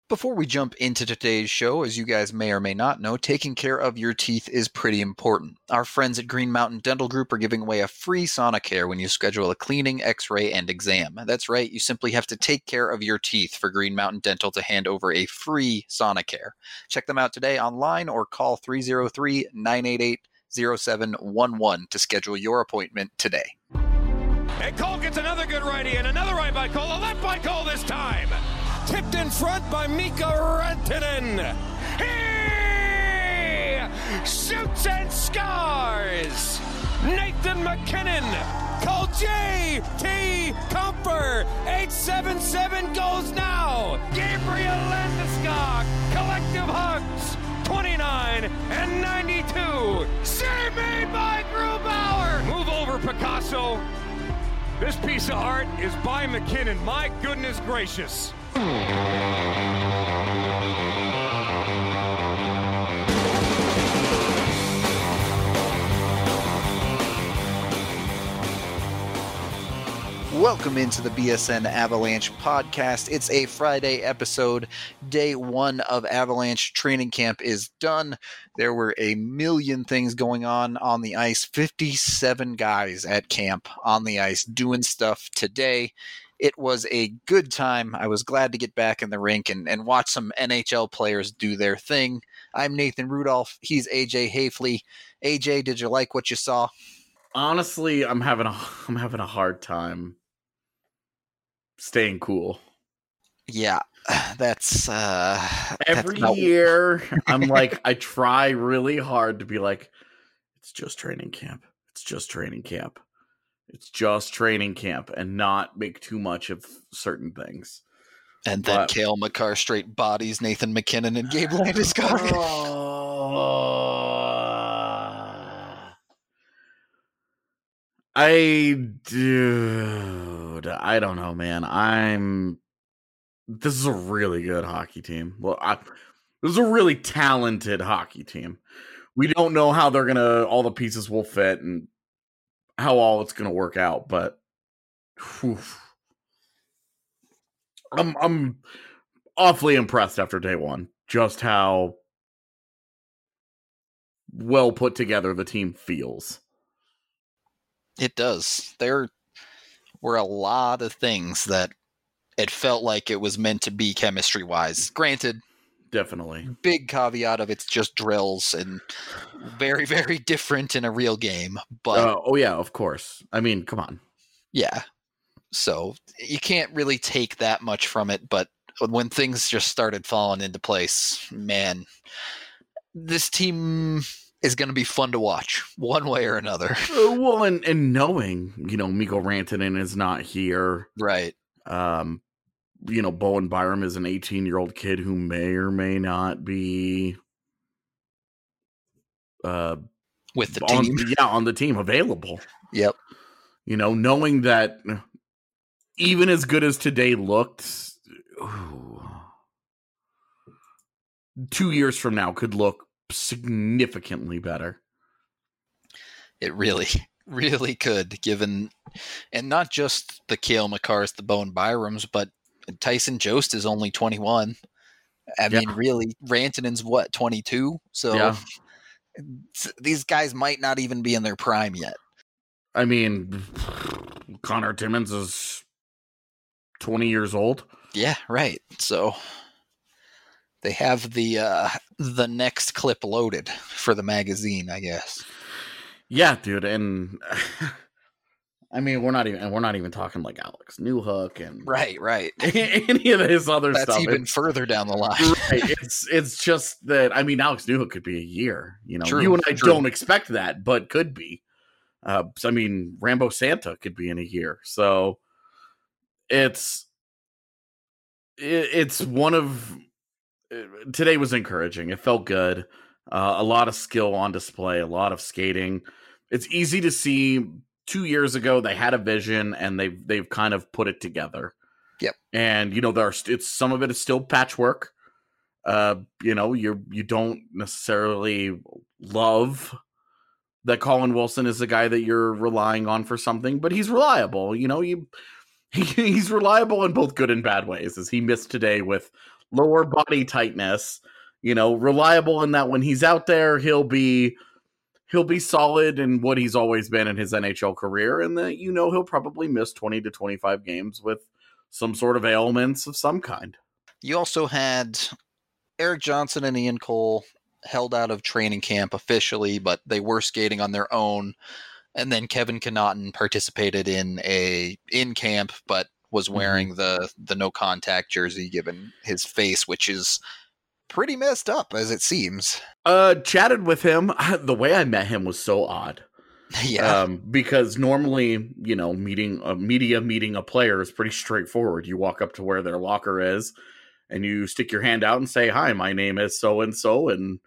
Before we jump into today's show, as you guys may or may not know, taking care of your teeth is pretty important. Our friends at Green Mountain Dental Group are giving away a free Sonicare when you schedule a cleaning, x-ray, and exam. That's right, you simply have to take care of your teeth for Green Mountain Dental to hand over a free Sonicare. Check them out today online or call 303-988-0711 to schedule your appointment today. And Cole gets another good righty and another right by Cole, a left by Cole this time. Tipped in front by Mikko Rantanen. He shoots and scores. Nathan MacKinnon. Cole J.T. Comfer. 877 goes now. Gabriel Landeskog. Collective hugs. 29 and 92. Save made by Grubauer. Move over, Picasso. This piece of art is by McKinnon. My goodness gracious. Welcome into the BSN Avalanche podcast. It's a Friday episode. Day one of Avalanche training camp is done. There were a million things going on the ice. 57 guys at camp on the ice doing stuff today. It was a good time. I was glad to get back in the rink and watch some NHL players do their thing. I'm Nathan Rudolph. He's AJ Hafley. AJ, did you like what you saw? Honestly, I'm having a hard time staying cool. Yeah, that's every year. I'm like, I try really hard to be like, it's just training camp. It's just training camp. It's just training camp, and not make too much of certain things. And then Cale Makar straight bodies Nathan MacKinnon and Gabe Landeskog. I don't know, man. This is a really good hockey team. This is a really talented hockey team. We don't know how all the pieces will fit and how all it's gonna work out, but I'm awfully impressed after day one, just how well put together the team feels. It does. There were a lot of things that it felt like it was meant to be chemistry-wise. Granted, definitely. Big caveat of it's just drills and very, very different in a real game. But oh yeah, of course. I mean, come on. Yeah. So you can't really take that much from it, but when things just started falling into place, man, this team is going to be fun to watch one way or another. Well, and knowing, Mikko Rantanen is not here. Right. Bowen Byram is an 18-year-old kid who may or may not be with the team. On the team available. Yep. Knowing that even as good as today looked, 2 years from now could look significantly better. It really, really could, given, and not just the Cale Makars, the Bowen Byrams, but Tyson Jost is only 21. I mean, really, Rantanen's 22? So these guys might not even be in their prime yet. I mean, Connor Timmins is 20 years old. Yeah, right. So they have the next clip loaded for the magazine, I guess. Yeah, dude, and I mean, we're not even talking like Alex Newhook and right. any of his other stuff. That's even further down the line. Right. It's just that, I mean, Alex Newhook could be a year. True, you and I don't expect that, but could be. I mean, Rambo Santa could be in a year. So it's one of today was encouraging. It felt good. A lot of skill on display, a lot of skating. It's easy to see 2 years ago they had a vision and they've kind of put it together. Yep. And it's some of it is still patchwork. You don't necessarily love that Colin Wilson is the guy that you're relying on for something, but he's reliable. He's reliable in both good and bad ways, as he missed today with lower body tightness, reliable in that when he's out there, he'll be solid in what he's always been in his NHL career, and that he'll probably miss 20 to 25 games with some sort of ailments of some kind. You also had Erik Johnson and Ian Cole held out of training camp officially, but they were skating on their own. And then Kevin Connauton participated in camp, but was wearing the no contact jersey given his face, which is pretty messed up as it seems. Chatted with him. The way I met him was so odd. Yeah. Because normally, meeting a player is pretty straightforward. You walk up to where their locker is and you stick your hand out and say, "Hi, my name is so-and-so, and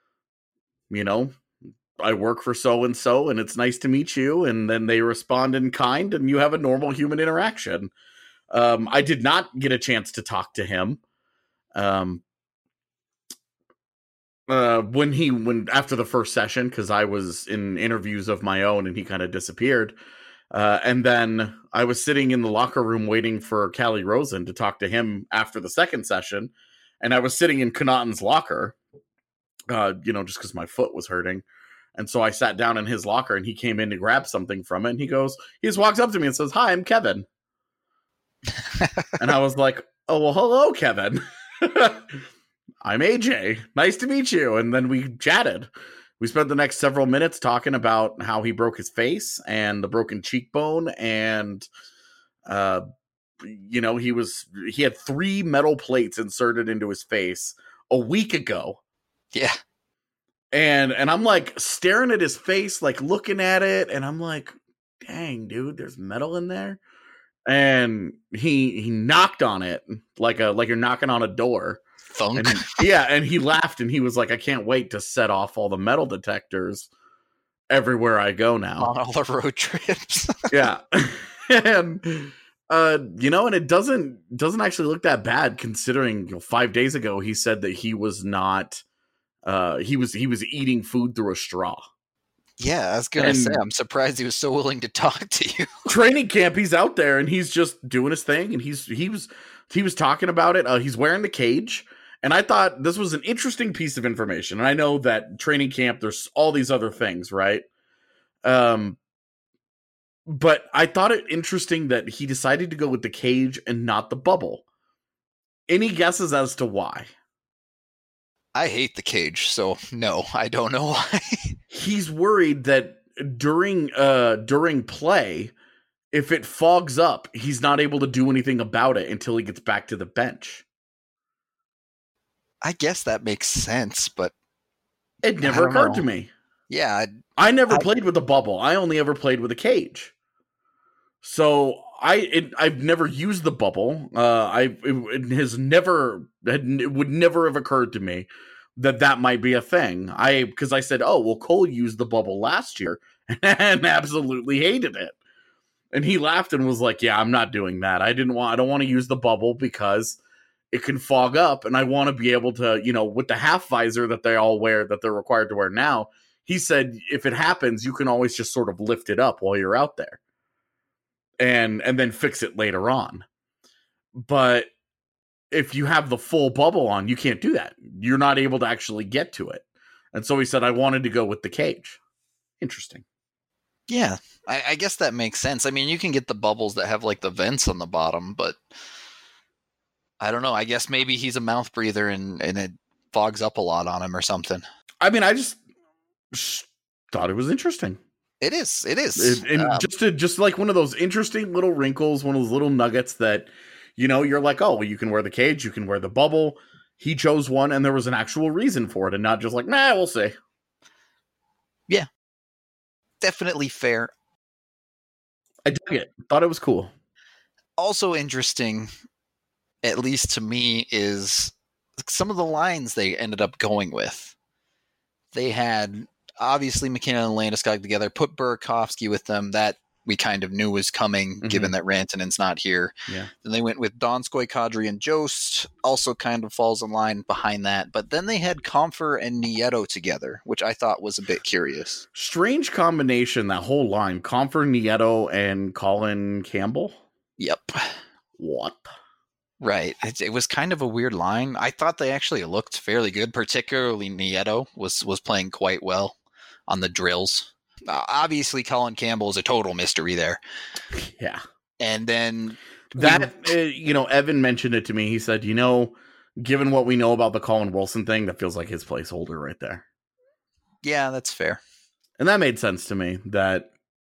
I work for so-and-so, and it's nice to meet you." And then they respond in kind, and you have a normal human interaction. I did not get a chance to talk to him. When after the first session, because I was in interviews of my own and he kind of disappeared. And then I was sitting in the locker room waiting for Calle Rosen to talk to him after the second session. And I was sitting in Connauton's locker, just because my foot was hurting. And so I sat down in his locker and he came in to grab something from it. And he just walks up to me and says, "Hi, I'm Kevin." And I was like, "Oh, well, hello, Kevin." "I'm AJ. Nice to meet you." And then we chatted. We spent the next several minutes talking about how he broke his face and the broken cheekbone. And, he had 3 metal plates inserted into his face a week ago. Yeah. And I'm like staring at his face, like looking at it. And I'm like, dang, dude, there's metal in there. And he knocked on it like you're knocking on a door. Thunk. And he laughed and he was like, "I can't wait to set off all the metal detectors everywhere I go now on all the road trips." Yeah. And and it doesn't actually look that bad considering 5 days ago he said that he was not he was eating food through a straw. Yeah, I was gonna say, I'm surprised he was so willing to talk to you. Training camp, he's out there and he's just doing his thing, and he was talking about it. He's wearing the cage. And I thought this was an interesting piece of information. And I know that training camp, there's all these other things, right? But I thought it interesting that he decided to go with the cage and not the bubble. Any guesses as to why? I hate the cage, so no, I don't know why. He's worried that during play, if it fogs up, he's not able to do anything about it until he gets back to the bench. I guess that makes sense, but it never occurred to me. Yeah. I never played with a bubble. I only ever played with a cage. So I've never used the bubble. It would never have occurred to me that might be a thing. Because I said, "Oh, well, Cole used the bubble last year and absolutely hated it." And he laughed and was like, "Yeah, I'm not doing that. I don't want to use the bubble because it can fog up, and I want to be able to, with the half visor that they all wear, that they're required to wear now." He said, if it happens, you can always just sort of lift it up while you're out there and then fix it later on. But if you have the full bubble on, you can't do that. You're not able to actually get to it. And so he said, I wanted to go with the cage. Interesting. Yeah, I guess that makes sense. I mean, you can get the bubbles that have like the vents on the bottom, but I don't know. I guess maybe he's a mouth breather and it fogs up a lot on him or something. I mean, I just thought it was interesting. It is. Just like one of those interesting little wrinkles, one of those little nuggets that, you're like, oh, well, you can wear the cage, you can wear the bubble. He chose one, and there was an actual reason for it, and not just like, nah, we'll see. Yeah, definitely fair. I dug it. Thought it was cool. Also interesting, at least to me, is some of the lines they ended up going with. They had, obviously, McKinnon and Landeskog together, put Burakovsky with them. That we kind of knew was coming, given that Rantanen's not here. Yeah. Then they went with Donskoy, Kadri, and Jost, also kind of falls in line behind that. But then they had Compher and Nieto together, which I thought was a bit curious. Strange combination, that whole line. Compher, Nieto, and Colin Campbell? Yep. What? Right. It was kind of a weird line. I thought they actually looked fairly good, particularly Nieto was playing quite well on the drills. Obviously, Colin Campbell is a total mystery there. Yeah. And then Evan mentioned it to me. He said, given what we know about the Colin Wilson thing, that feels like his placeholder right there. Yeah, that's fair. And that made sense to me that,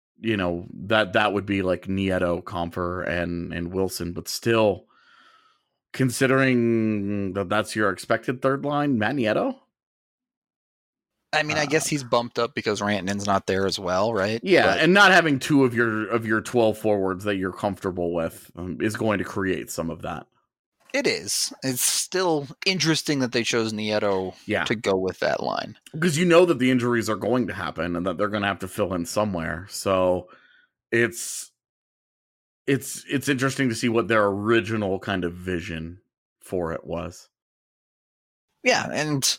that would be like Nieto, Compher, and Wilson, but still, considering that that's your expected third line, Matt Nieto? I mean, I guess he's bumped up because Rantanen's not there as well, right? Yeah, and not having two of your 12 forwards that you're comfortable with is going to create some of that. It is. It's still interesting that they chose Nieto to go with that line. Because you know that the injuries are going to happen and that they're going to have to fill in somewhere. So it's interesting to see what their original kind of vision for it was. Yeah, and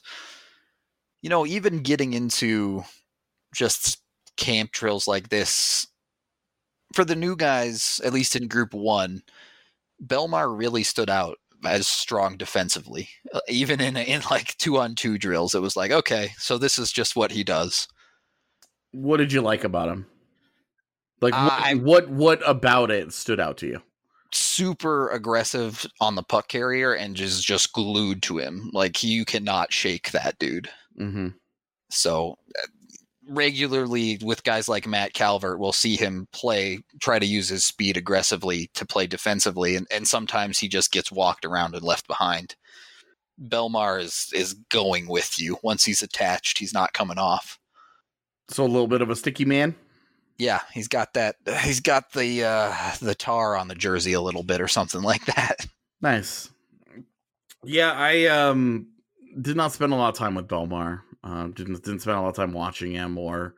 even getting into just camp drills like this, for the new guys, at least in Group 1, Bellemare really stood out as strong defensively. Even in like 2-on-2 drills, it was like, okay, so this is just what he does. What did you like about him? Like, what about it stood out to you? Super aggressive on the puck carrier and just glued to him. Like, you cannot shake that dude. Mm-hmm. So regularly with guys like Matt Calvert, we'll see him try to use his speed aggressively to play defensively, and sometimes he just gets walked around and left behind. Bellemare is going with you. Once he's attached, he's not coming off. So a little bit of a sticky man? Yeah, he's got that. He's got the tar on the jersey a little bit or something like that. Nice. Yeah, I did not spend a lot of time with Bellemare. Didn't spend a lot of time watching him or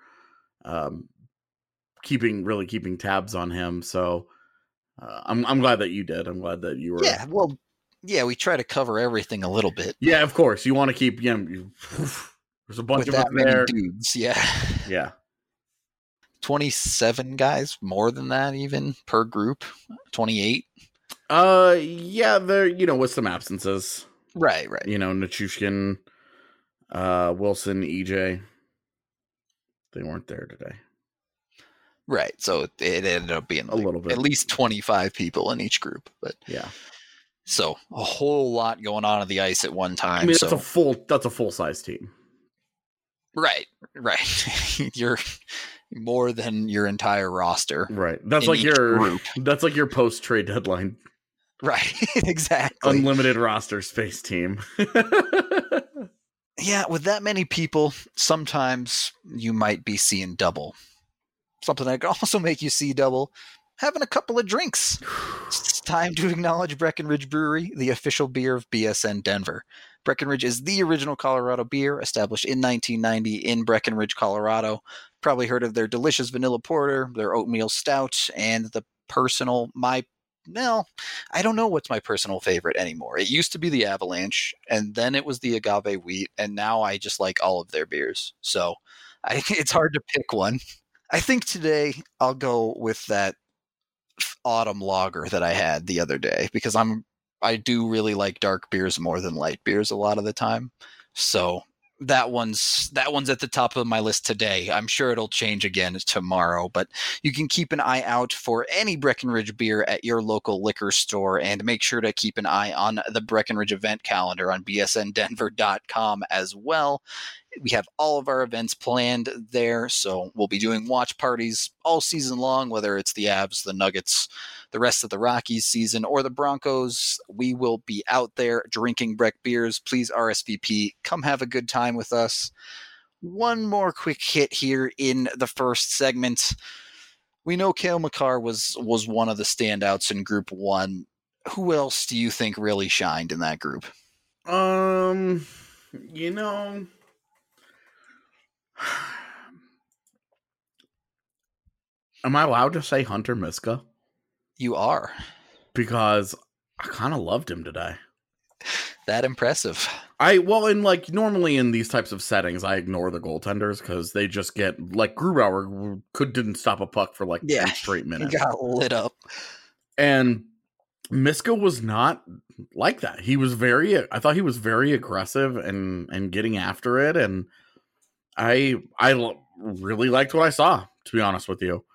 keeping tabs on him. So I'm glad that you did. I'm glad that you were. Yeah, well, yeah, we try to cover everything a little bit. Yeah, of course. You want to keep. There's a bunch with of that many there. dudes. Yeah. Yeah. 27 guys, more than that even per group. 28. Yeah, there. With some absences. Right. Nichushkin, Wilson, EJ. They weren't there today. Right. So it ended up being a little bit, at least 25 people in each group. But yeah. So a whole lot going on the ice at one time. I mean, that's a full size team. Right. You're more than your entire roster. Right. That's like your post trade deadline. Right. Exactly. Unlimited roster space team. Yeah, with that many people, sometimes you might be seeing double. Something that can also make you see double, having a couple of drinks. It's time to acknowledge Breckenridge Brewery, the official beer of BSN Denver. Breckenridge is the original Colorado beer, established in 1990 in Breckenridge, Colorado. Probably heard of their delicious vanilla porter, their oatmeal stout, and the personal, I don't know what's my personal favorite anymore. It used to be the Avalanche, and then it was the Agave Wheat, and now I just like all of their beers. So it's hard to pick one. I think today I'll go with that autumn lager that I had the other day, because I do really like dark beers more than light beers a lot of the time. So that one's at the top of my list today. I'm sure it'll change again tomorrow, but you can keep an eye out for any Breckenridge beer at your local liquor store, and make sure to keep an eye on the Breckenridge event calendar on bsndenver.com as well. We have all of our events planned there, so we'll be doing watch parties all season long, whether it's the Avs, the Nuggets, the rest of the Rockies season, or the Broncos. We will be out there drinking Breck beers. Please RSVP. Come have a good time with us. One more quick hit here in the first segment. We know Cale Makar was one of the standouts in Group 1. Who else do you think really shined in that group? Am I allowed to say Hunter Miska? You are. Because I kind of loved him today. That impressive. Normally in these types of settings, I ignore the goaltenders because they just get, like, Grubauer didn't stop a puck for 10 straight minutes. He got lit up. And Miska was not like that. I thought he was very aggressive and getting after it. And I really liked what I saw, to be honest with you.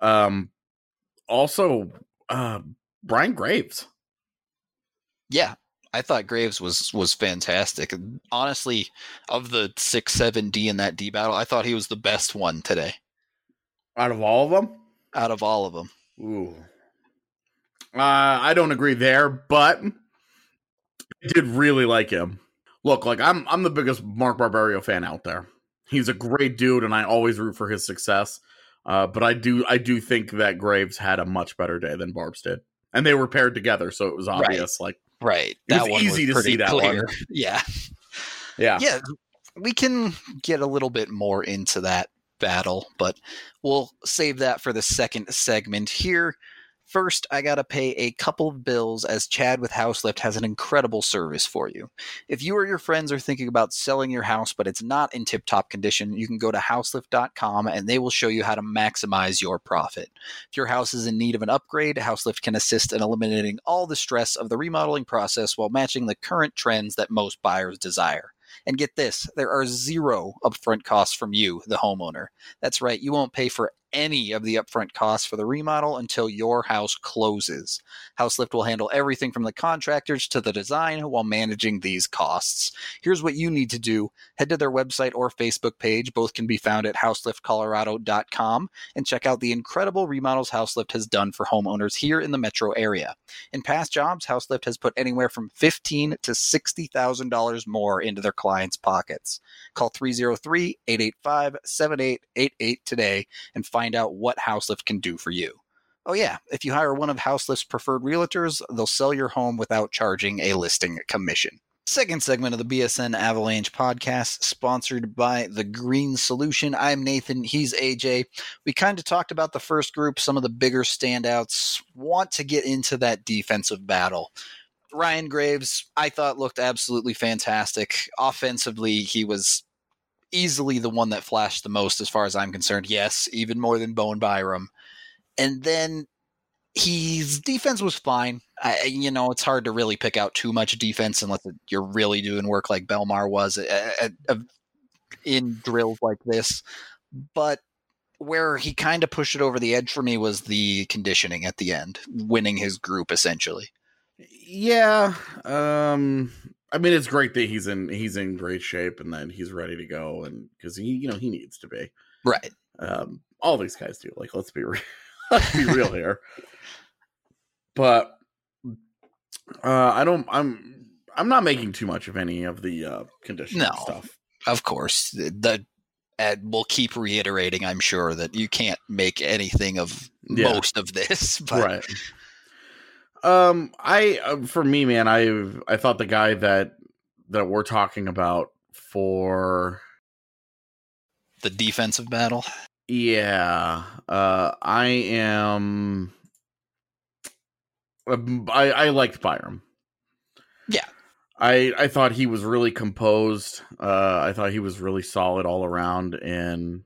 Also, Brian Graves. Yeah, I thought Graves was fantastic. Honestly, of the 6-7 D in that D battle, I thought he was the best one today. Out of all of them? Out of all of them. Ooh. I don't agree there, but I did really like him. Look, like I'm the biggest Mark Barberio fan out there. He's a great dude, and I always root for his success. But I do think that Graves had a much better day than Barbs did, and they were paired together, so it was obvious. Right. It was easy to see that clear. one. Yeah. We can get a little bit more into that battle, but we'll save that for the second segment here. First, I gotta pay a couple of bills, as Chad with Houselift has an incredible service for you. If you or your friends are thinking about selling your house but it's not in tip-top condition, you can go to houselift.com and they will show you how to maximize your profit. If your house is in need of an upgrade, Houselift can assist in eliminating all the stress of the remodeling process while matching the current trends that most buyers desire. And get this, there are zero upfront costs from you, the homeowner. That's right, you won't pay for any of the upfront costs for the remodel until your house closes. Houselift will handle everything from the contractors to the design while managing these costs. Here's what you need to do. Head to their website or Facebook page. Both can be found at houseliftcolorado.com, and check out the incredible remodels Houselift has done for homeowners here in the metro area. In past jobs, Houselift has put anywhere from $15,000 to $60,000 more into their clients' pockets. Call 303-885-7888 today and find out what Houselift can do for you. Oh yeah, if you hire one of Houselift's preferred realtors, they'll sell your home without charging a listing commission. Second segment of the BSN Avalanche podcast, sponsored by The Green Solution. I'm Nathan, he's AJ. We kind of talked about the first group, some of the bigger standouts. Want to get into that defensive battle. Ryan Graves, I thought, looked absolutely fantastic. Offensively, he was easily the one that flashed the most as far as I'm concerned. Yes, even more than Bowen Byram. And then his defense was fine. It's hard to really pick out too much defense unless you're really doing work like Belmar was in drills like this. But where he kind of pushed it over the edge for me was the conditioning at the end, winning his group essentially. Yeah. I mean, it's great that he's in great shape and that he's ready to go, and because he needs to be. Right. All these guys do. Like, let's be real here. But I'm not making too much of any of the conditioning stuff. Of course. We'll keep reiterating, I'm sure, that you can't make anything of most of this. But. Right. For me, man, I thought the guy that we're talking about for the defensive battle. Yeah. I liked Byram. Yeah. I thought he was really composed. I thought he was really solid all around, and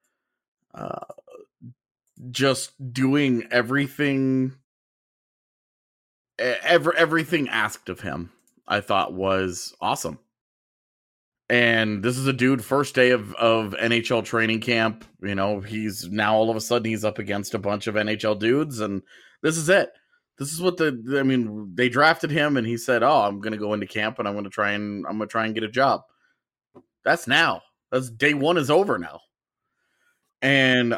just doing everything asked of him, I thought was awesome. And this is a dude, first day of NHL training camp. He's now all of a sudden he's up against a bunch of NHL dudes, and this is it. This is what they drafted him, and he said, "Oh, I'm going to go into camp and I'm going to try and get a job." That's now. That's day one is over now, and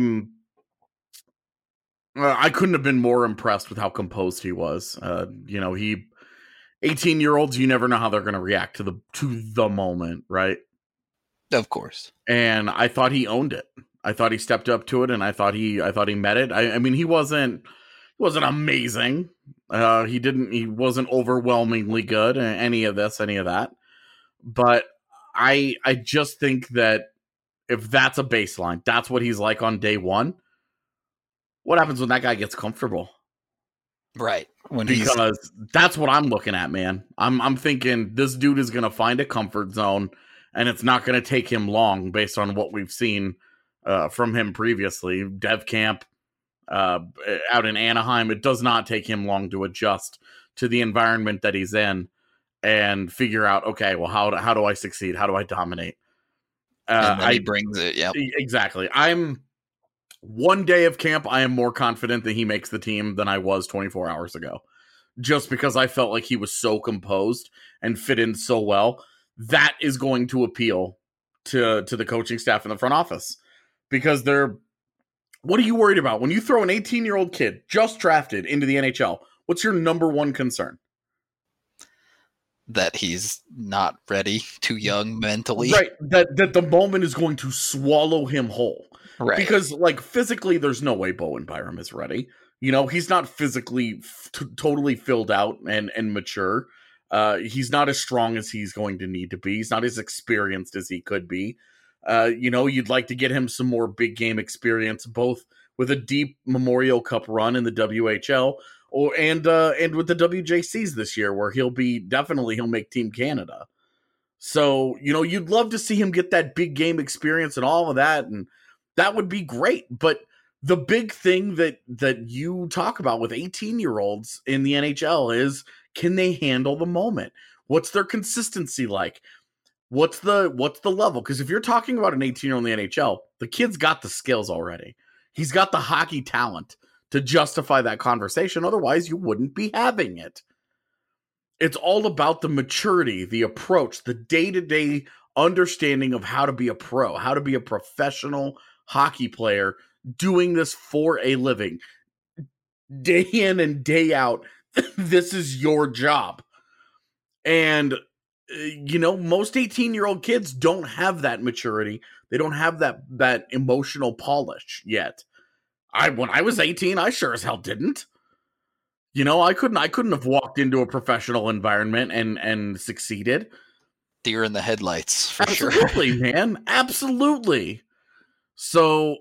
I couldn't have been more impressed with how composed he was. 18-year-olds, you never know how they're going to react to the moment, right? Of course. And I thought he owned it. I thought he stepped up to it, and I thought he met it. I mean, he wasn't amazing. He wasn't overwhelmingly good, any of that. But I just think that if that's a baseline, that's what he's like on day one. What happens when that guy gets comfortable? Right. Because that's what I'm looking at, man. I'm thinking this dude is going to find a comfort zone, and it's not going to take him long based on what we've seen from him previously. Dev camp, out in Anaheim. It does not take him long to adjust to the environment that he's in and figure out, okay, well, how do I succeed? How do I dominate? And then he brings it. Yep. Exactly. One day of camp, I am more confident that he makes the team than I was 24 hours ago. Just because I felt like he was so composed and fit in so well. That is going to appeal to the coaching staff in the front office. Because what are you worried about? When you throw an 18-year-old kid just drafted into the NHL, what's your number one concern? That he's not ready, too young mentally. Right. That the moment is going to swallow him whole. Right. Because, like, physically, there's no way Bowen Byram is ready. You know, he's not physically totally filled out and mature. He's not as strong as he's going to need to be. He's not as experienced as he could be. You know, you'd like to get him some more big game experience, both with a deep Memorial Cup run in the WHL and with the WJCs this year, where he'll make Team Canada. So, you know, you'd love to see him get that big game experience and all of that, and that would be great. But the big thing that you talk about with 18-year-olds in the NHL is, can they handle the moment? What's their consistency like? What's the level? Because if you're talking about an 18-year-old in the NHL, the kid's got the skills already. He's got the hockey talent to justify that conversation. Otherwise, you wouldn't be having it. It's all about the maturity, the approach, the day-to-day understanding of how to be a pro, how to be a professional hockey player doing this for a living. Day in and day out, this is your job. And, you know, most 18-year-old kids don't have that maturity. They don't have that emotional polish yet. When I was 18, I sure as hell didn't. You know, I couldn't have walked into a professional environment and succeeded. Deer in the headlights, for sure. Absolutely, man. Absolutely. So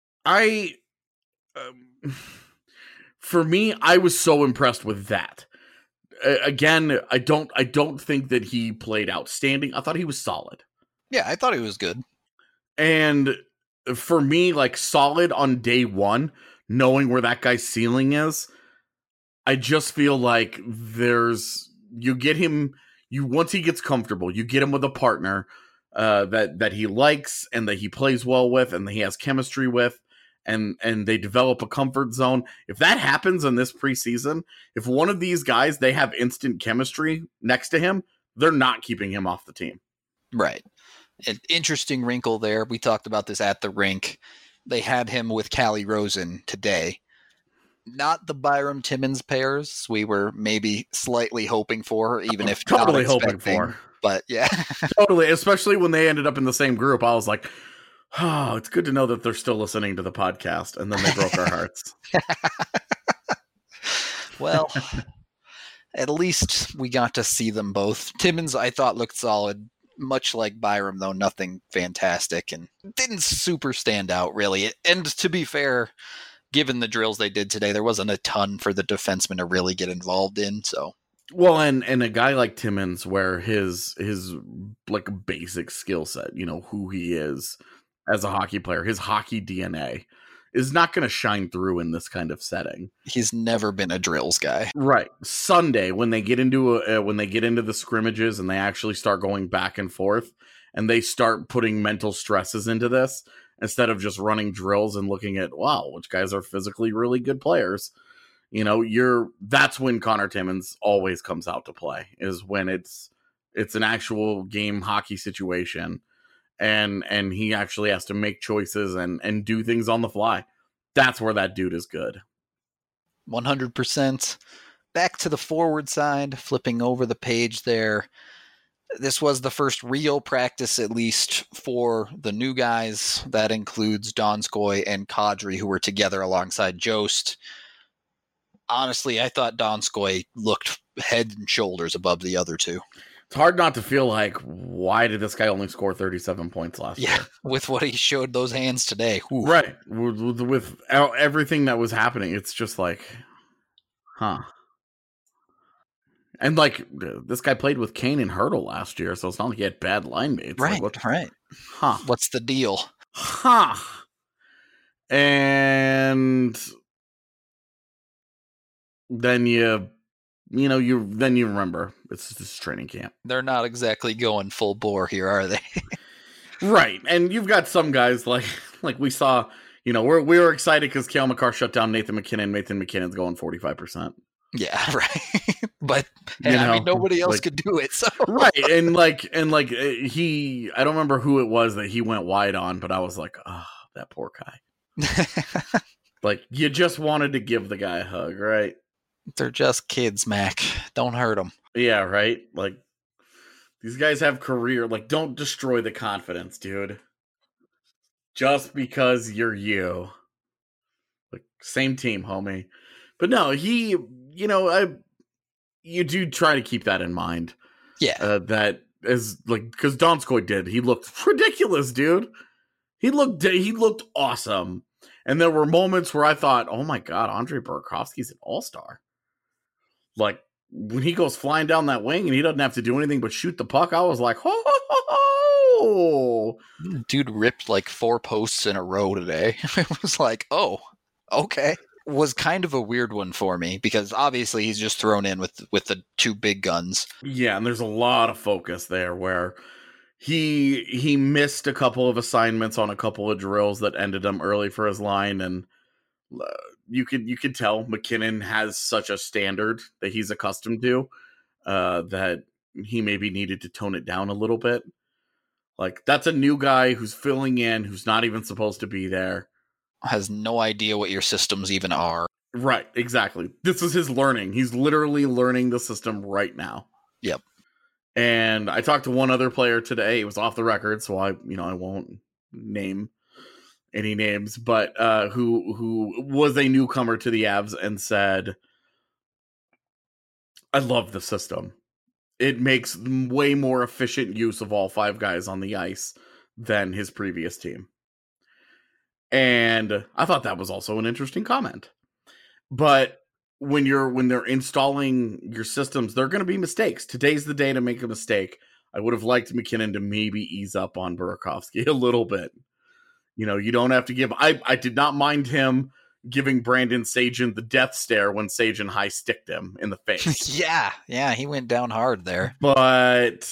for me, I was so impressed with that. Again, I don't think that he played outstanding. I thought he was solid. Yeah, I thought he was good. And for me, like, solid on day one, knowing where that guy's ceiling is, I just feel like once he gets comfortable, you get him with a partner that he likes and that he plays well with and that he has chemistry with, and they develop a comfort zone. If that happens in this preseason, if one of these guys, they have instant chemistry next to him, they're not keeping him off the team. Right. An interesting wrinkle there. We talked about this at the rink. They had him with Calle Rosen today. Not the Byram Timmins pairs we were maybe slightly hoping for, even if totally not hoping for. But yeah. Totally, especially when they ended up in the same group. I was like, oh, it's good to know that they're still listening to the podcast, and then they broke our hearts. Well, at least we got to see them both. Timmins, I thought, looked solid. Much like Byram, though, nothing fantastic and didn't super stand out, really. And to be fair, given the drills they did today, there wasn't a ton for the defenseman to really get involved in. So, well, and a guy like Timmins, where his like basic skill set, you know, who he is as a hockey player, his hockey DNA is not going to shine through in this kind of setting. He's never been a drills guy. Right. Sunday, when they get into the scrimmages and they actually start going back and forth and they start putting mental stresses into this instead of just running drills and looking at, wow, which guys are physically really good players. You know, that's when Connor Timmins always comes out to play, is when it's an actual game hockey situation. And he actually has to make choices and do things on the fly. That's where that dude is good. 100%. Back to the forward side, flipping over the page there. This was the first real practice, at least for the new guys. That includes Donskoy and Kadri, who were together alongside Jost. Honestly, I thought Donskoy looked head and shoulders above the other two. It's hard not to feel like, why did this guy only score 37 points last year? With what he showed those hands today. Ooh. Right. With everything that was happening, it's just like, huh. And, like, this guy played with Kane and Hertl last year, so it's not like he had bad line mates. Right, like, right. Huh. What's the deal? Huh. And then you remember it's this training camp. They're not exactly going full bore here, are they? Right. And you've got some guys like we saw, we were excited because Cale Makar shut down Nathan McKinnon. Nathan McKinnon's going 45%. Yeah, right. But nobody else could do it. So right. And I don't remember who it was that he went wide on, but I was like, oh, that poor guy. You just wanted to give the guy a hug, right? They're just kids, Mac. Don't hurt them. Yeah, right? These guys have career. Don't destroy the confidence, dude. Just because you're you. Same team, homie. But no, you do try to keep that in mind. Yeah. That is because Donskoy did. He looked ridiculous, dude. He looked awesome. And there were moments where I thought, oh my God, Andre Burakovsky's an all-star. When he goes flying down that wing and he doesn't have to do anything but shoot the puck, I was like, ho, ho, ho, ho. Dude ripped 4 posts in a row today. It was like, oh, okay. Was kind of a weird one for me because obviously he's just thrown in with the 2 big guns. Yeah, and there's a lot of focus there where he missed a couple of assignments on a couple of drills that ended him early for his line, and you could tell McKinnon has such a standard that he's accustomed to that he maybe needed to tone it down a little bit. That's a new guy who's filling in, who's not even supposed to be there. Has no idea what your systems even are. Right, exactly. This is his learning. He's literally learning the system right now. Yep. And I talked to one other player today. It was off the record, so I won't name any names, but who was a newcomer to the Avs and said, I love the system. It makes way more efficient use of all 5 guys on the ice than his previous team. And I thought that was also an interesting comment. But when they're installing your systems, there are going to be mistakes. Today's the day to make a mistake. I would have liked McKinnon to maybe ease up on Burakovsky a little bit. You don't have to give. I did not mind him giving Brandon Sagen the death stare when Sagen high sticked him in the face. Yeah, he went down hard there. But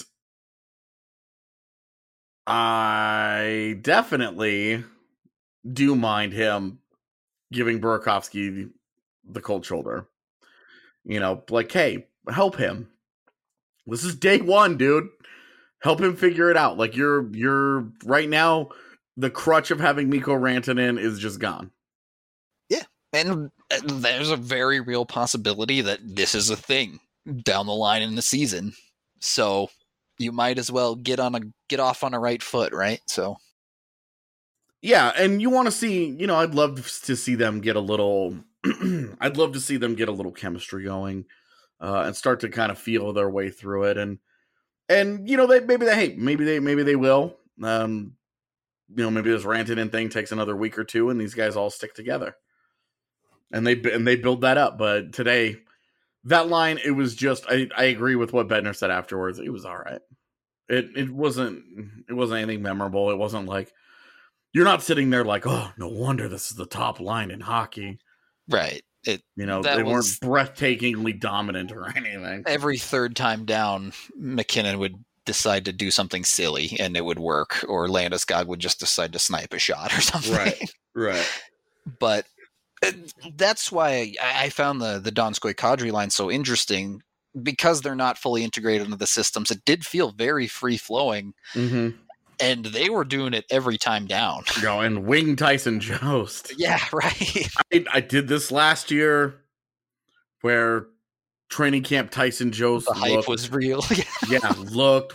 I definitely do mind him giving Burakovsky the cold shoulder. Hey, help him. This is day 1, dude. Help him figure it out. You're right now, the crutch of having Mikko Rantanen is just gone. Yeah, and there's a very real possibility that this is a thing down the line in the season. So you might as well get off on a right foot, right? So yeah, and you want to see, I'd love to see them get a little I'd love to see them get a little chemistry going and start to kind of feel their way through it, and maybe they will. Maybe this Rantanen thing takes another week or 2, and these guys all stick together, and they build that up. But today, that line, it was just I agree with what Bednar said afterwards. It was all right. It wasn't anything memorable. It wasn't like you're not sitting there like, oh, no wonder this is the top line in hockey. Right. They weren't breathtakingly dominant or anything. Every third time down, McKinnon would decide to do something silly and it would work, or Landeskog would just decide to snipe a shot or something. Right. But that's why I found the Donskoy Kadri line so interesting, because they're not fully integrated into the systems. It did feel very free flowing. Mm-hmm. And they were doing it every time down. And wing Tyson Jost. Yeah, right. I did this last year where training camp Tyson Jost. The hype was real. Yeah, looked.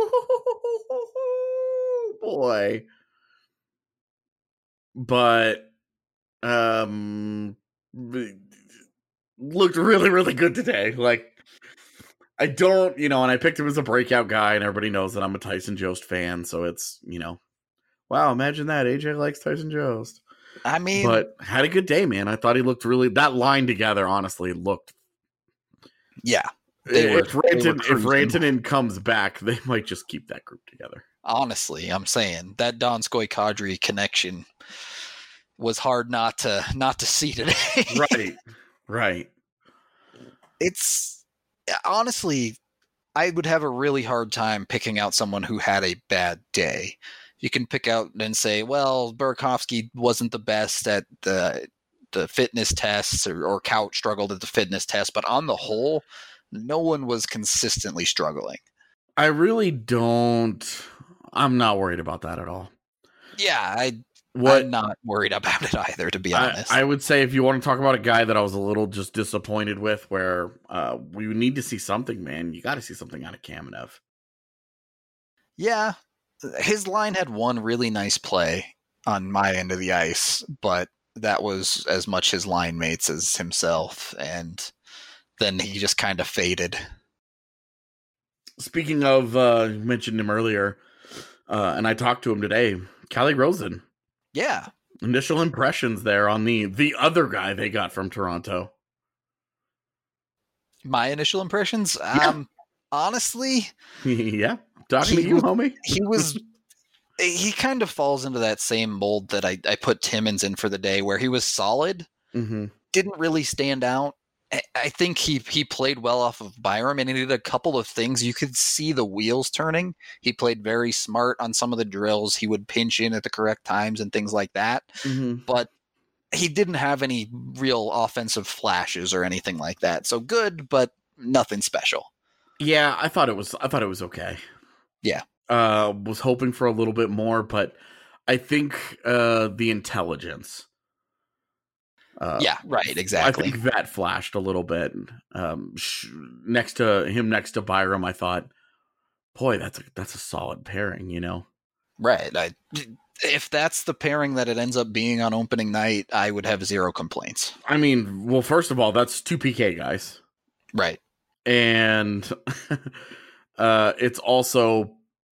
Boy. But looked really, really good today. I don't, and I picked him as a breakout guy, and everybody knows that I'm a Tyson Jost fan, so it's, wow, imagine that. AJ likes Tyson Jost. I mean, but had a good day, man. I thought he looked that line together, honestly, looked. Yeah. If Rantanen comes back, they might just keep that group together. Honestly, I'm saying that Donskoy Kadri connection was hard not to see today. Right. It's honestly, I would have a really hard time picking out someone who had a bad day. You can pick out and say, well, Burakovsky wasn't the best at the fitness tests, or Couch struggled at the fitness test, but on the whole, no one was consistently struggling. I really don't. I'm not worried about that at all. Yeah, I'm not worried about it either, to be honest. I would say if you want to talk about a guy that I was a little just disappointed with, where we need to see something, man. You got to see something out of Kamenev. Yeah, his line had one really nice play on my end of the ice, but that was as much his line mates as himself, and then he just kind of faded. Speaking of, you mentioned him earlier, and I talked to him today, Calle Rosen. Yeah. Initial impressions there on the other guy they got from Toronto. My initial impressions? Yeah. Honestly... Yeah, talking to you, homie. He kind of falls into that same mold that I put Timmins in for the day, where he was solid, didn't really stand out. I think he played well off of Byram, and he did a couple of things. You could see the wheels turning. He played very smart on some of the drills. He would pinch in at the correct times and things like that. But he didn't have any real offensive flashes or anything like that. So good, but nothing special. Yeah, I thought it was okay. Yeah. Was hoping for a little bit more, but I think the intelligence. Yeah, right, exactly. I think that flashed a little bit. Next to Byram, I thought, boy, that's a solid pairing, you know? Right. If that's the pairing that it ends up being on opening night, I would have zero complaints. I mean, well, first of all, that's two PK guys. Right. And it's also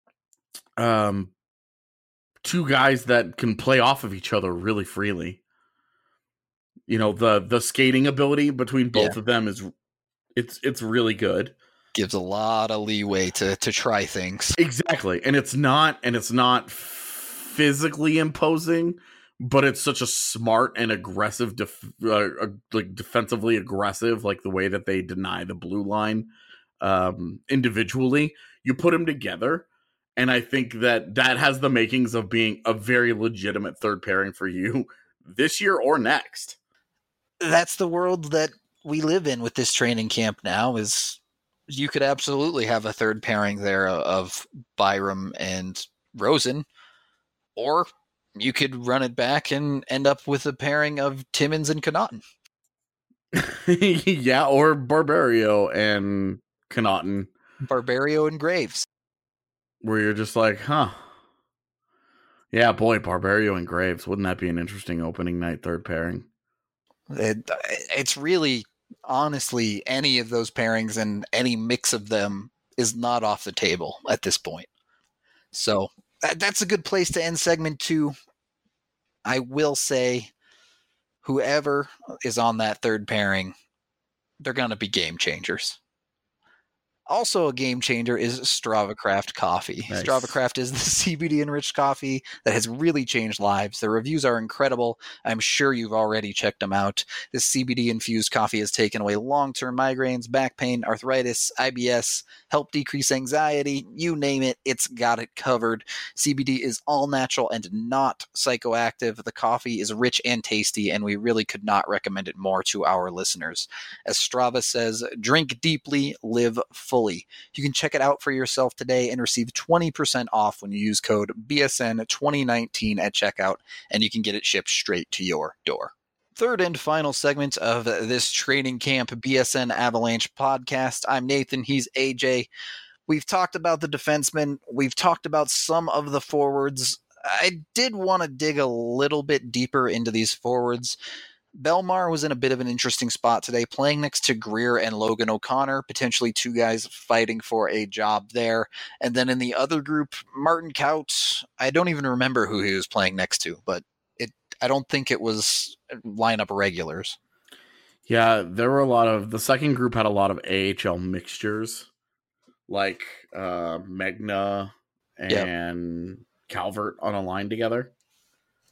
two guys that can play off of each other really freely. You know, the skating ability between both of them is it's really good. Gives a lot of leeway to try things. Exactly. And it's not physically imposing, but it's such a smart and aggressive like defensively aggressive, like the way that they deny the blue line individually. You put them together, and I think that has the makings of being a very legitimate third pairing for you this year or next. That's the world that we live in with this training camp now. Is you could absolutely have a third pairing there of Byram and Rosen, or you could run it back and end up with a pairing of Timmins and Connauton. Yeah, or Barberio and Connauton. Barberio and Graves. Where you're just like, huh. Yeah, boy, Barberio and Graves. Wouldn't that be an interesting opening night third pairing? It's really, honestly, any of those pairings and any mix of them is not off the table at this point. So that's a good place to end segment 2. I will say, whoever is on that third pairing, they're going to be game changers. Also a game changer is Strava Craft coffee. Nice. Strava Craft is the CBD-enriched coffee that has really changed lives. The reviews are incredible. I'm sure you've already checked them out. This CBD-infused coffee has taken away long-term migraines, back pain, arthritis, IBS, helped decrease anxiety. You name it, it's got it covered. CBD is all natural and not psychoactive. The coffee is rich and tasty, and we really could not recommend it more to our listeners. As Strava says, drink deeply, live fully. You can check it out for yourself today and receive 20% off when you use code BSN2019 at checkout, and you can get it shipped straight to your door. Third and final segment of this training camp BSN Avalanche podcast. I'm Nathan. He's AJ. We've talked about the defensemen. We've talked about some of the forwards. I did want to dig a little bit deeper into these forwards. Belmar was in a bit of an interesting spot today, playing next to Greer and Logan O'Connor, potentially two guys fighting for a job there. And then in the other group, Martin Kaut, I don't even remember who he was playing next to, but I don't think it was lineup regulars. Yeah, there were the second group had a lot of AHL mixtures, like Megna and Calvert on a line together.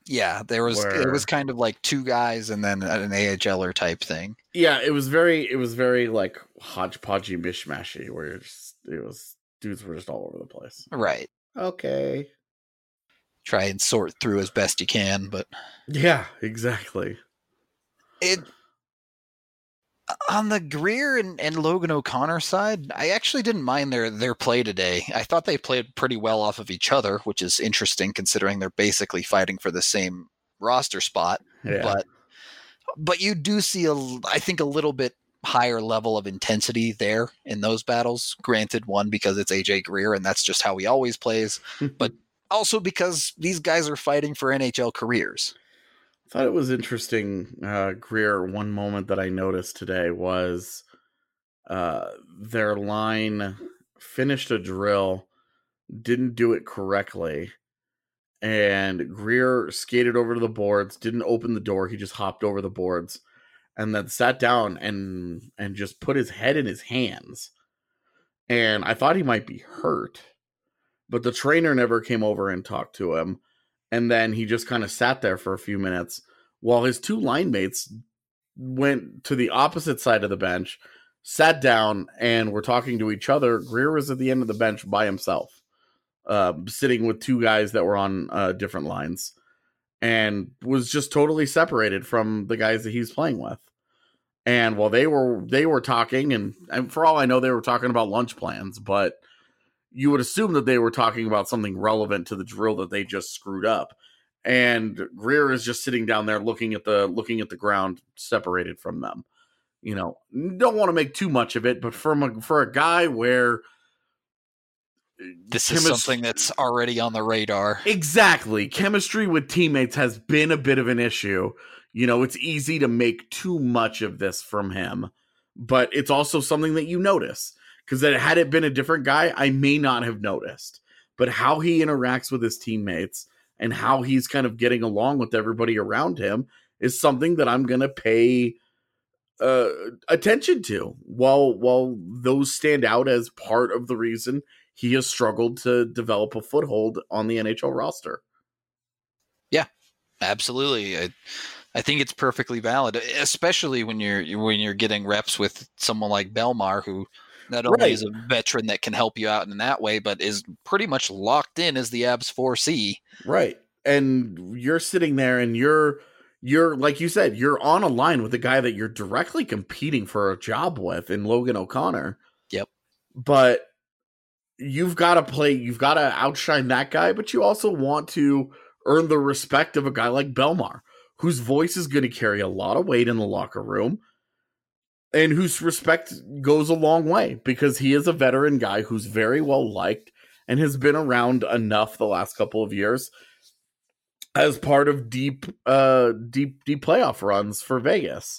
Yeah, it was where kind of like two guys and then an AHLer type thing. yeah, it was very like hodgepodgey mishmashy where it was dudes were just all over the place. Right. Okay. Try and sort through as best you can, but Yeah, exactly. it on the Greer and Logan O'Connor side, I actually didn't mind their play today. I thought they played pretty well off of each other, which is interesting considering they're basically fighting for the same roster spot. Yeah. But you do see I think a little bit higher level of intensity there in those battles. Granted, one because it's AJ Greer and that's just how he always plays, but also because these guys are fighting for NHL careers. I thought it was interesting, Greer. One moment that I noticed today was their line finished a drill, didn't do it correctly, and Greer skated over to the boards, didn't open the door, he just hopped over the boards, and then sat down and just put his head in his hands. And I thought he might be hurt, but the trainer never came over and talked to him. And then he just kind of sat there for a few minutes while his two line mates went to the opposite side of the bench, sat down, and were talking to each other. Greer was at the end of the bench by himself, sitting with two guys that were on different lines, and was just totally separated from the guys that he's playing with. And while they were talking, and for all I know, they were talking about lunch plans, but you would assume that they were talking about something relevant to the drill that they just screwed up. And Greer is just sitting down there looking at the ground, separated from them. You know, don't want to make too much of it, but for a guy where this is something that's already on the radar. Exactly. Chemistry with teammates has been a bit of an issue. You know, it's easy to make too much of this from him, but it's also something that you notice. Because had it been a different guy, I may not have noticed. But how he interacts with his teammates and how he's kind of getting along with everybody around him is something that I'm going to pay attention to. While those stand out as part of the reason he has struggled to develop a foothold on the NHL roster. Yeah, absolutely. I think it's perfectly valid, especially when you're getting reps with someone like Belmar, who not only is a veteran that can help you out in that way, but is pretty much locked in as the Abs 4C. Right. And you're sitting there and you're like you said, you're on a line with a guy that you're directly competing for a job with in Logan O'Connor. Yep. But you've got to outshine that guy, but you also want to earn the respect of a guy like Belmar, whose voice is going to carry a lot of weight in the locker room. And whose respect goes a long way because he is a veteran guy who's very well liked and has been around enough the last couple of years as part of deep playoff runs for Vegas.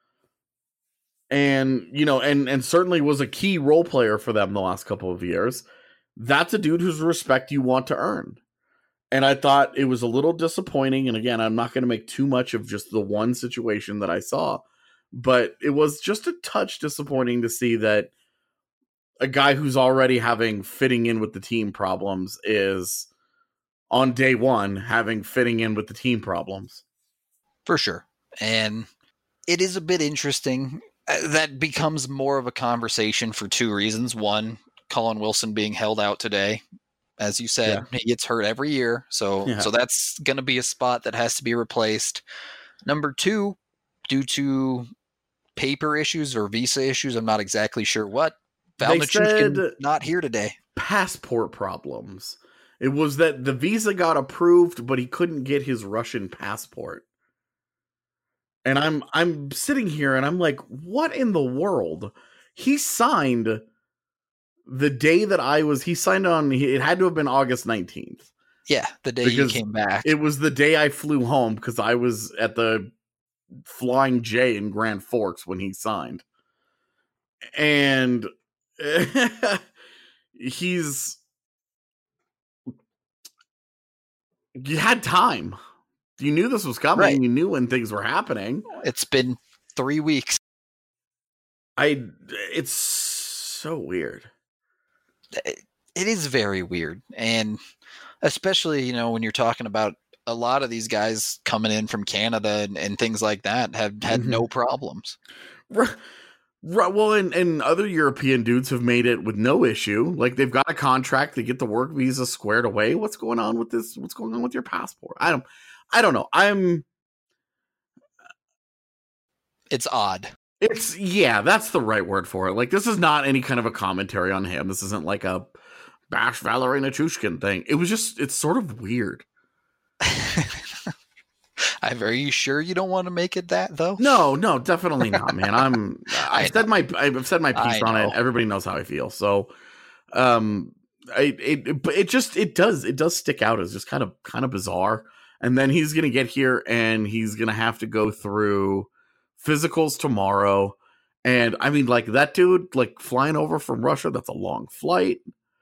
And, you know, and certainly was a key role player for them the last couple of years. That's a dude whose respect you want to earn. And I thought it was a little disappointing. And again, I'm not going to make too much of just the one situation that I saw. But it was just a touch disappointing to see that a guy who's already having fitting in with the team problems is on day one having fitting in with the team problems. For sure. And it is a bit interesting. That becomes more of a conversation for two reasons. One, Colin Wilson being held out today. As you said, he gets hurt every year. So that's going to be a spot that has to be replaced. Number two, due to paper issues or visa issues, I'm not exactly sure what. Val Nichushkin not here today. Passport problems. It was that the visa got approved, but he couldn't get his Russian passport. And I'm sitting here and I'm like, what in the world? He signed the day that he signed on, it had to have been August 19th. Yeah, the day you came back. It was the day I flew home because I was at the Flying J in Grand Forks when he signed. And you had time. You knew this was coming. Right. You knew when things were happening. It's been 3 weeks. It's so weird. It is very weird. And especially, you know, when you're talking about a lot of these guys coming in from Canada and things like that have had no problems. Right. Well, and other European dudes have made it with no issue. Like, they've got a contract, they get the work visa squared away. What's going on with this? What's going on with your passport? I don't know. It's odd. That's the right word for it. Like, this is not any kind of a commentary on him. This isn't like a bash Valerie Nichushkin thing. It's sort of weird. Are you sure you don't want to make it that though? No, definitely not, man. I've said my piece on it. Everybody knows how I feel. So, it does stick out as just kind of bizarre. And then he's gonna get here and he's gonna have to go through physicals tomorrow. And I mean, like, that dude, like, flying over from Russia, that's a long flight.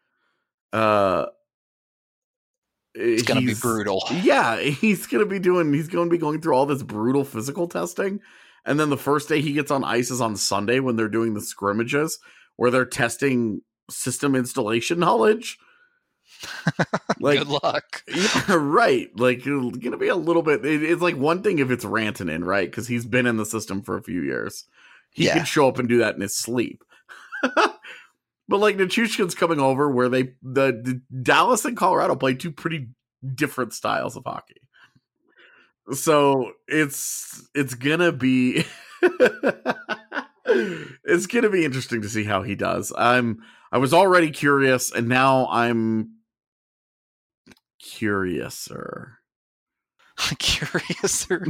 It's going to be brutal. Yeah, he's going to be going through all this brutal physical testing. And then the first day he gets on ice is on Sunday when they're doing the scrimmages where they're testing system installation knowledge. Like, good luck. Yeah, right. Like, it's going to be a little bit, it's like one thing if it's Rantanen, right? Because he's been in the system for a few years. He can show up and do that in his sleep. But like, Nichushkin's coming over where the Dallas and Colorado play two pretty different styles of hockey. So it's gonna be it's gonna be interesting to see how he does. I was already curious, and now I'm curiouser. Curiouser.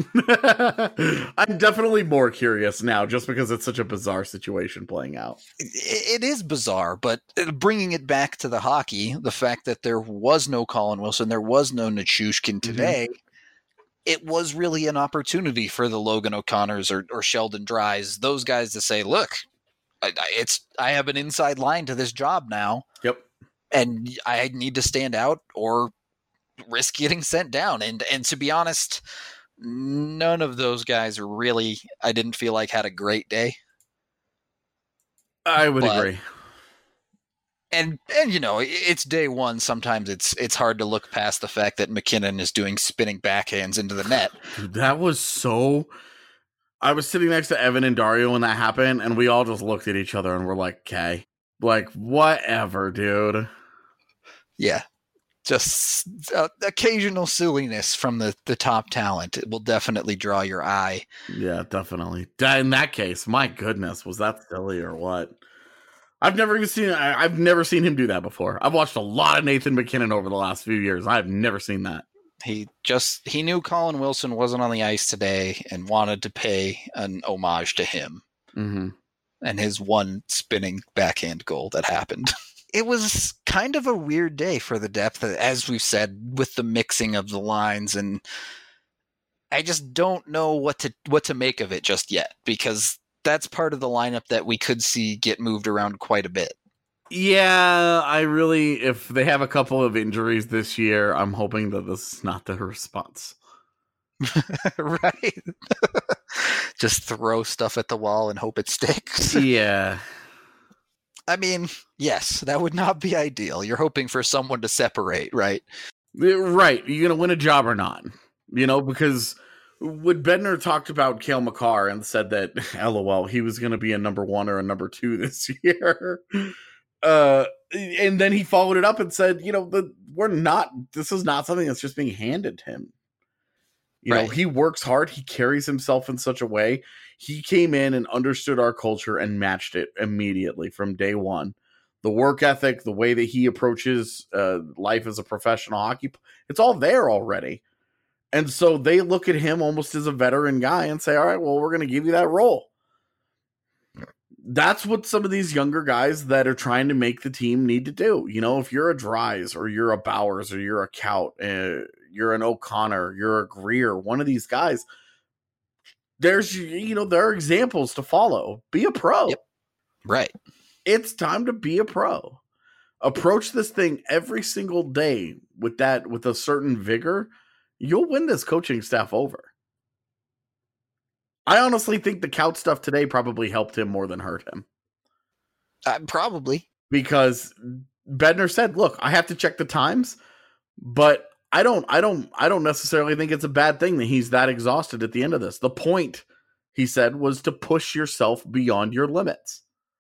I'm definitely more curious now just because it's such a bizarre situation playing out. It is bizarre, but bringing it back to the hockey, the fact that there was no Colin Wilson, there was no Nichushkin today, it was really an opportunity for the Logan O'Connors or Sheldon Dries, those guys to say, look, I have an inside line to this job now. Yep. And I need to stand out or risk getting sent down. And to be honest, none of those guys really, I didn't feel like had a great day. I would agree. And you know, it's day one. Sometimes it's hard to look past the fact that McKinnon is doing spinning backhands into the net. Dude, that was so... I was sitting next to Evan and Dario when that happened, and we all just looked at each other and were like, okay. Like, whatever, dude. Yeah. Just occasional silliness from the top talent. It will definitely draw your eye. Yeah, definitely. In that case, my goodness, was that silly or what? I've never seen him do that before. I've watched a lot of Nathan McKinnon over the last few years. I've never seen that. He knew Colin Wilson wasn't on the ice today and wanted to pay an homage to him. Mm-hmm. And his one spinning backhand goal that happened. It was kind of a weird day for the depth, as we've said, with the mixing of the lines, and I just don't know what to make of it just yet, because that's part of the lineup that we could see get moved around quite a bit. Yeah, if they have a couple of injuries this year, I'm hoping that this is not the response. Right? Just throw stuff at the wall and hope it sticks. Yeah. I mean, yes, that would not be ideal. You're hoping for someone to separate, right? Right. You're going to win a job or not? You know, because when Bednar talked about Cale Makar and said that, LOL, he was going to be a number 1 or a number 2 this year. And then he followed it up and said, you know, this is not something that's just being handed to him. You know, he works hard. He carries himself in such a way. He came in and understood our culture and matched it immediately from day one. The work ethic, the way that he approaches life as a professional hockey, it's all there already. And so they look at him almost as a veteran guy and say, all right, well, we're going to give you that role. That's what some of these younger guys that are trying to make the team need to do. You know, if you're a Dries or you're a Bowers or you're a Kaut, you're an O'Connor, you're a Greer, one of these guys, there are examples to follow. Be a pro. Yep. Right. It's time to be a pro. Approach this thing every single day with a certain vigor. You'll win this coaching staff over. I honestly think the Kaut stuff today probably helped him more than hurt him. Probably. Because Bednar said, look, I have to check the times, but I don't necessarily think it's a bad thing that he's that exhausted at the end of this. The point, he said, was to push yourself beyond your limits.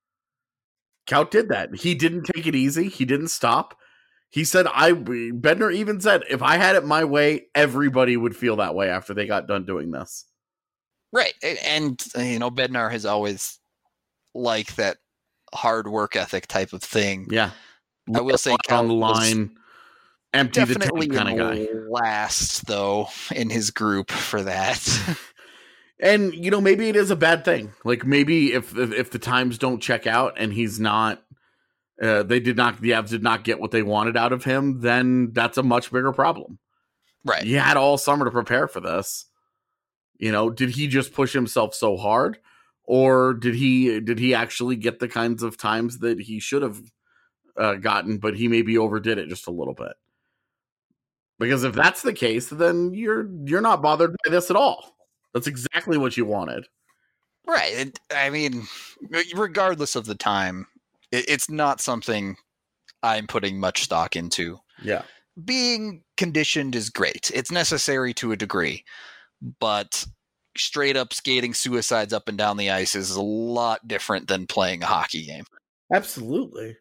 Kaut did that. He didn't take it easy. He didn't stop. He said, Bednar even said, if I had it my way, everybody would feel that way after they got done doing this. Right. And, Bednar has always liked that hard work ethic type of thing. Yeah. I will say Kaut on the line, empty the tank kind of guy. Last, though, in his group for that. And, maybe it is a bad thing. Like, maybe if the times don't check out and he's not, the Avs did not get what they wanted out of him, then that's a much bigger problem. Right. He had all summer to prepare for this. Did he just push himself so hard? Or did he actually get the kinds of times that he should have gotten, but he maybe overdid it just a little bit? Because if that's the case, then you're not bothered by this at all. That's exactly what you wanted. Right. I mean, regardless of the time, it's not something I'm putting much stock into. Yeah. Being conditioned is great. It's necessary to a degree. But straight up skating suicides up and down the ice is a lot different than playing a hockey game. Absolutely.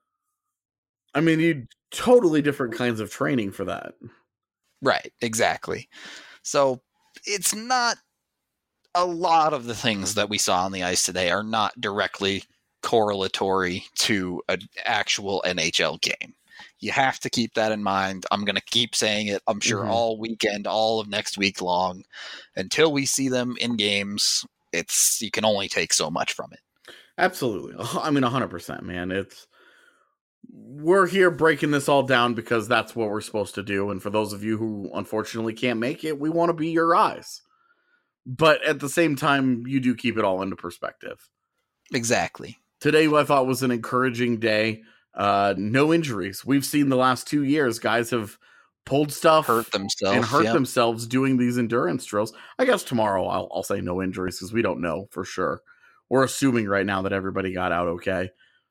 I mean, you totally different kinds of training for that. Right, exactly. So it's not a lot of the things that we saw on the ice today are not directly correlatory to an actual NHL game. You have to keep that in mind. I'm going to keep saying it, I'm sure, all weekend, all of next week long. Until we see them in games, you can only take so much from it. Absolutely. I mean, 100%, man. We're here breaking this all down because that's what we're supposed to do. And for those of you who unfortunately can't make it, we want to be your eyes. But at the same time, you do keep it all into perspective. Exactly. Today, I thought was an encouraging day. No injuries. We've seen the last 2 years, guys have pulled stuff, hurt themselves doing these endurance drills. I guess tomorrow I'll say no injuries because we don't know for sure. We're assuming right now that everybody got out okay.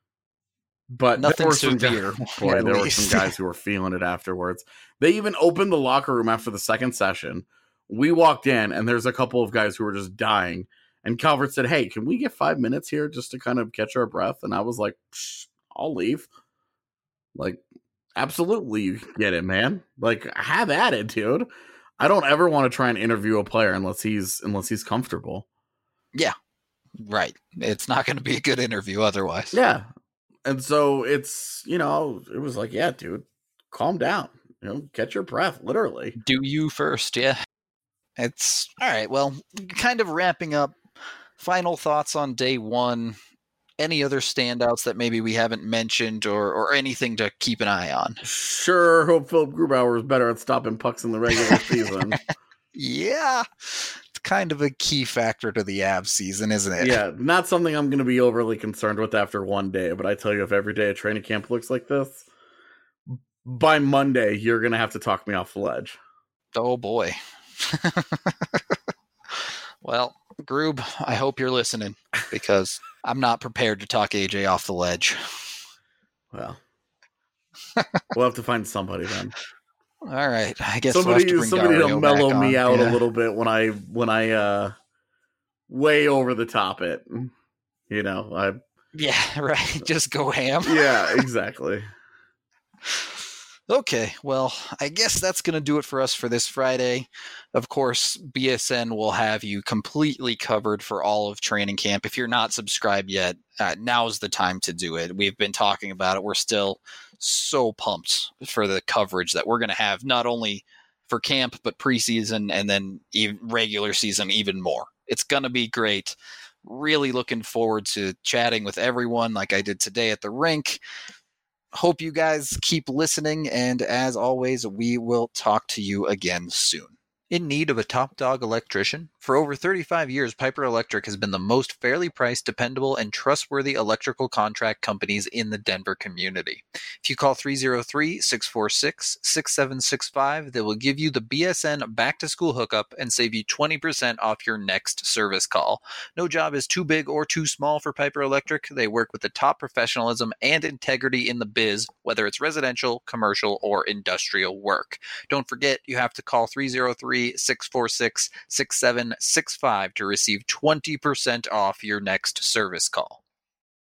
But nothing severe. There were some guys who were feeling it afterwards. They even opened the locker room after the second session. We walked in, and there's a couple of guys who were just dying. And Calvert said, "Hey, can we get 5 minutes here just to kind of catch our breath?" And I was like, I'll leave. Like, absolutely, you get it, man. Like, have at it, dude. I don't ever want to try and interview a player unless he's comfortable. Yeah, right. It's not going to be a good interview otherwise. Yeah, and so it's it was like, yeah, dude, calm down. Catch your breath, literally. Do you first, yeah. It's all right. Well, kind of wrapping up. Final thoughts on day one. Any other standouts that maybe we haven't mentioned or anything to keep an eye on? Sure. Hope Philip Grubauer is better at stopping pucks in the regular season. Yeah. It's kind of a key factor to the Avs season, isn't it? Yeah. Not something I'm going to be overly concerned with after one day. But I tell you, if every day at training camp looks like this, by Monday, you're going to have to talk me off the ledge. Oh, boy. Well, Groob, I hope you're listening because I'm not prepared to talk AJ off the ledge. Well, we'll have to find somebody then. All right, I guess somebody we'll have to bring to Dario mellow back me on. out a little bit when I way over the top it. Yeah, right. Just go ham. Yeah, exactly. Okay, well, I guess that's going to do it for us for this Friday. Of course, BSN will have you completely covered for all of training camp. If you're not subscribed yet, now's the time to do it. We've been talking about it. We're still so pumped for the coverage that we're going to have, not only for camp, but preseason and then even regular season even more. It's going to be great. Really looking forward to chatting with everyone like I did today at the rink. Hope you guys keep listening, and as always, we will talk to you again soon. In need of a top dog electrician? For over 35 years, Piper Electric has been the most fairly priced, dependable, and trustworthy electrical contract companies in the Denver community. If you call 303-646-6765, they will give you the BSN back-to-school hookup and save you 20% off your next service call. No job is too big or too small for Piper Electric. They work with the top professionalism and integrity in the biz, whether it's residential, commercial, or industrial work. Don't forget, you have to call 303-646-6765 to receive 20% off your next service call.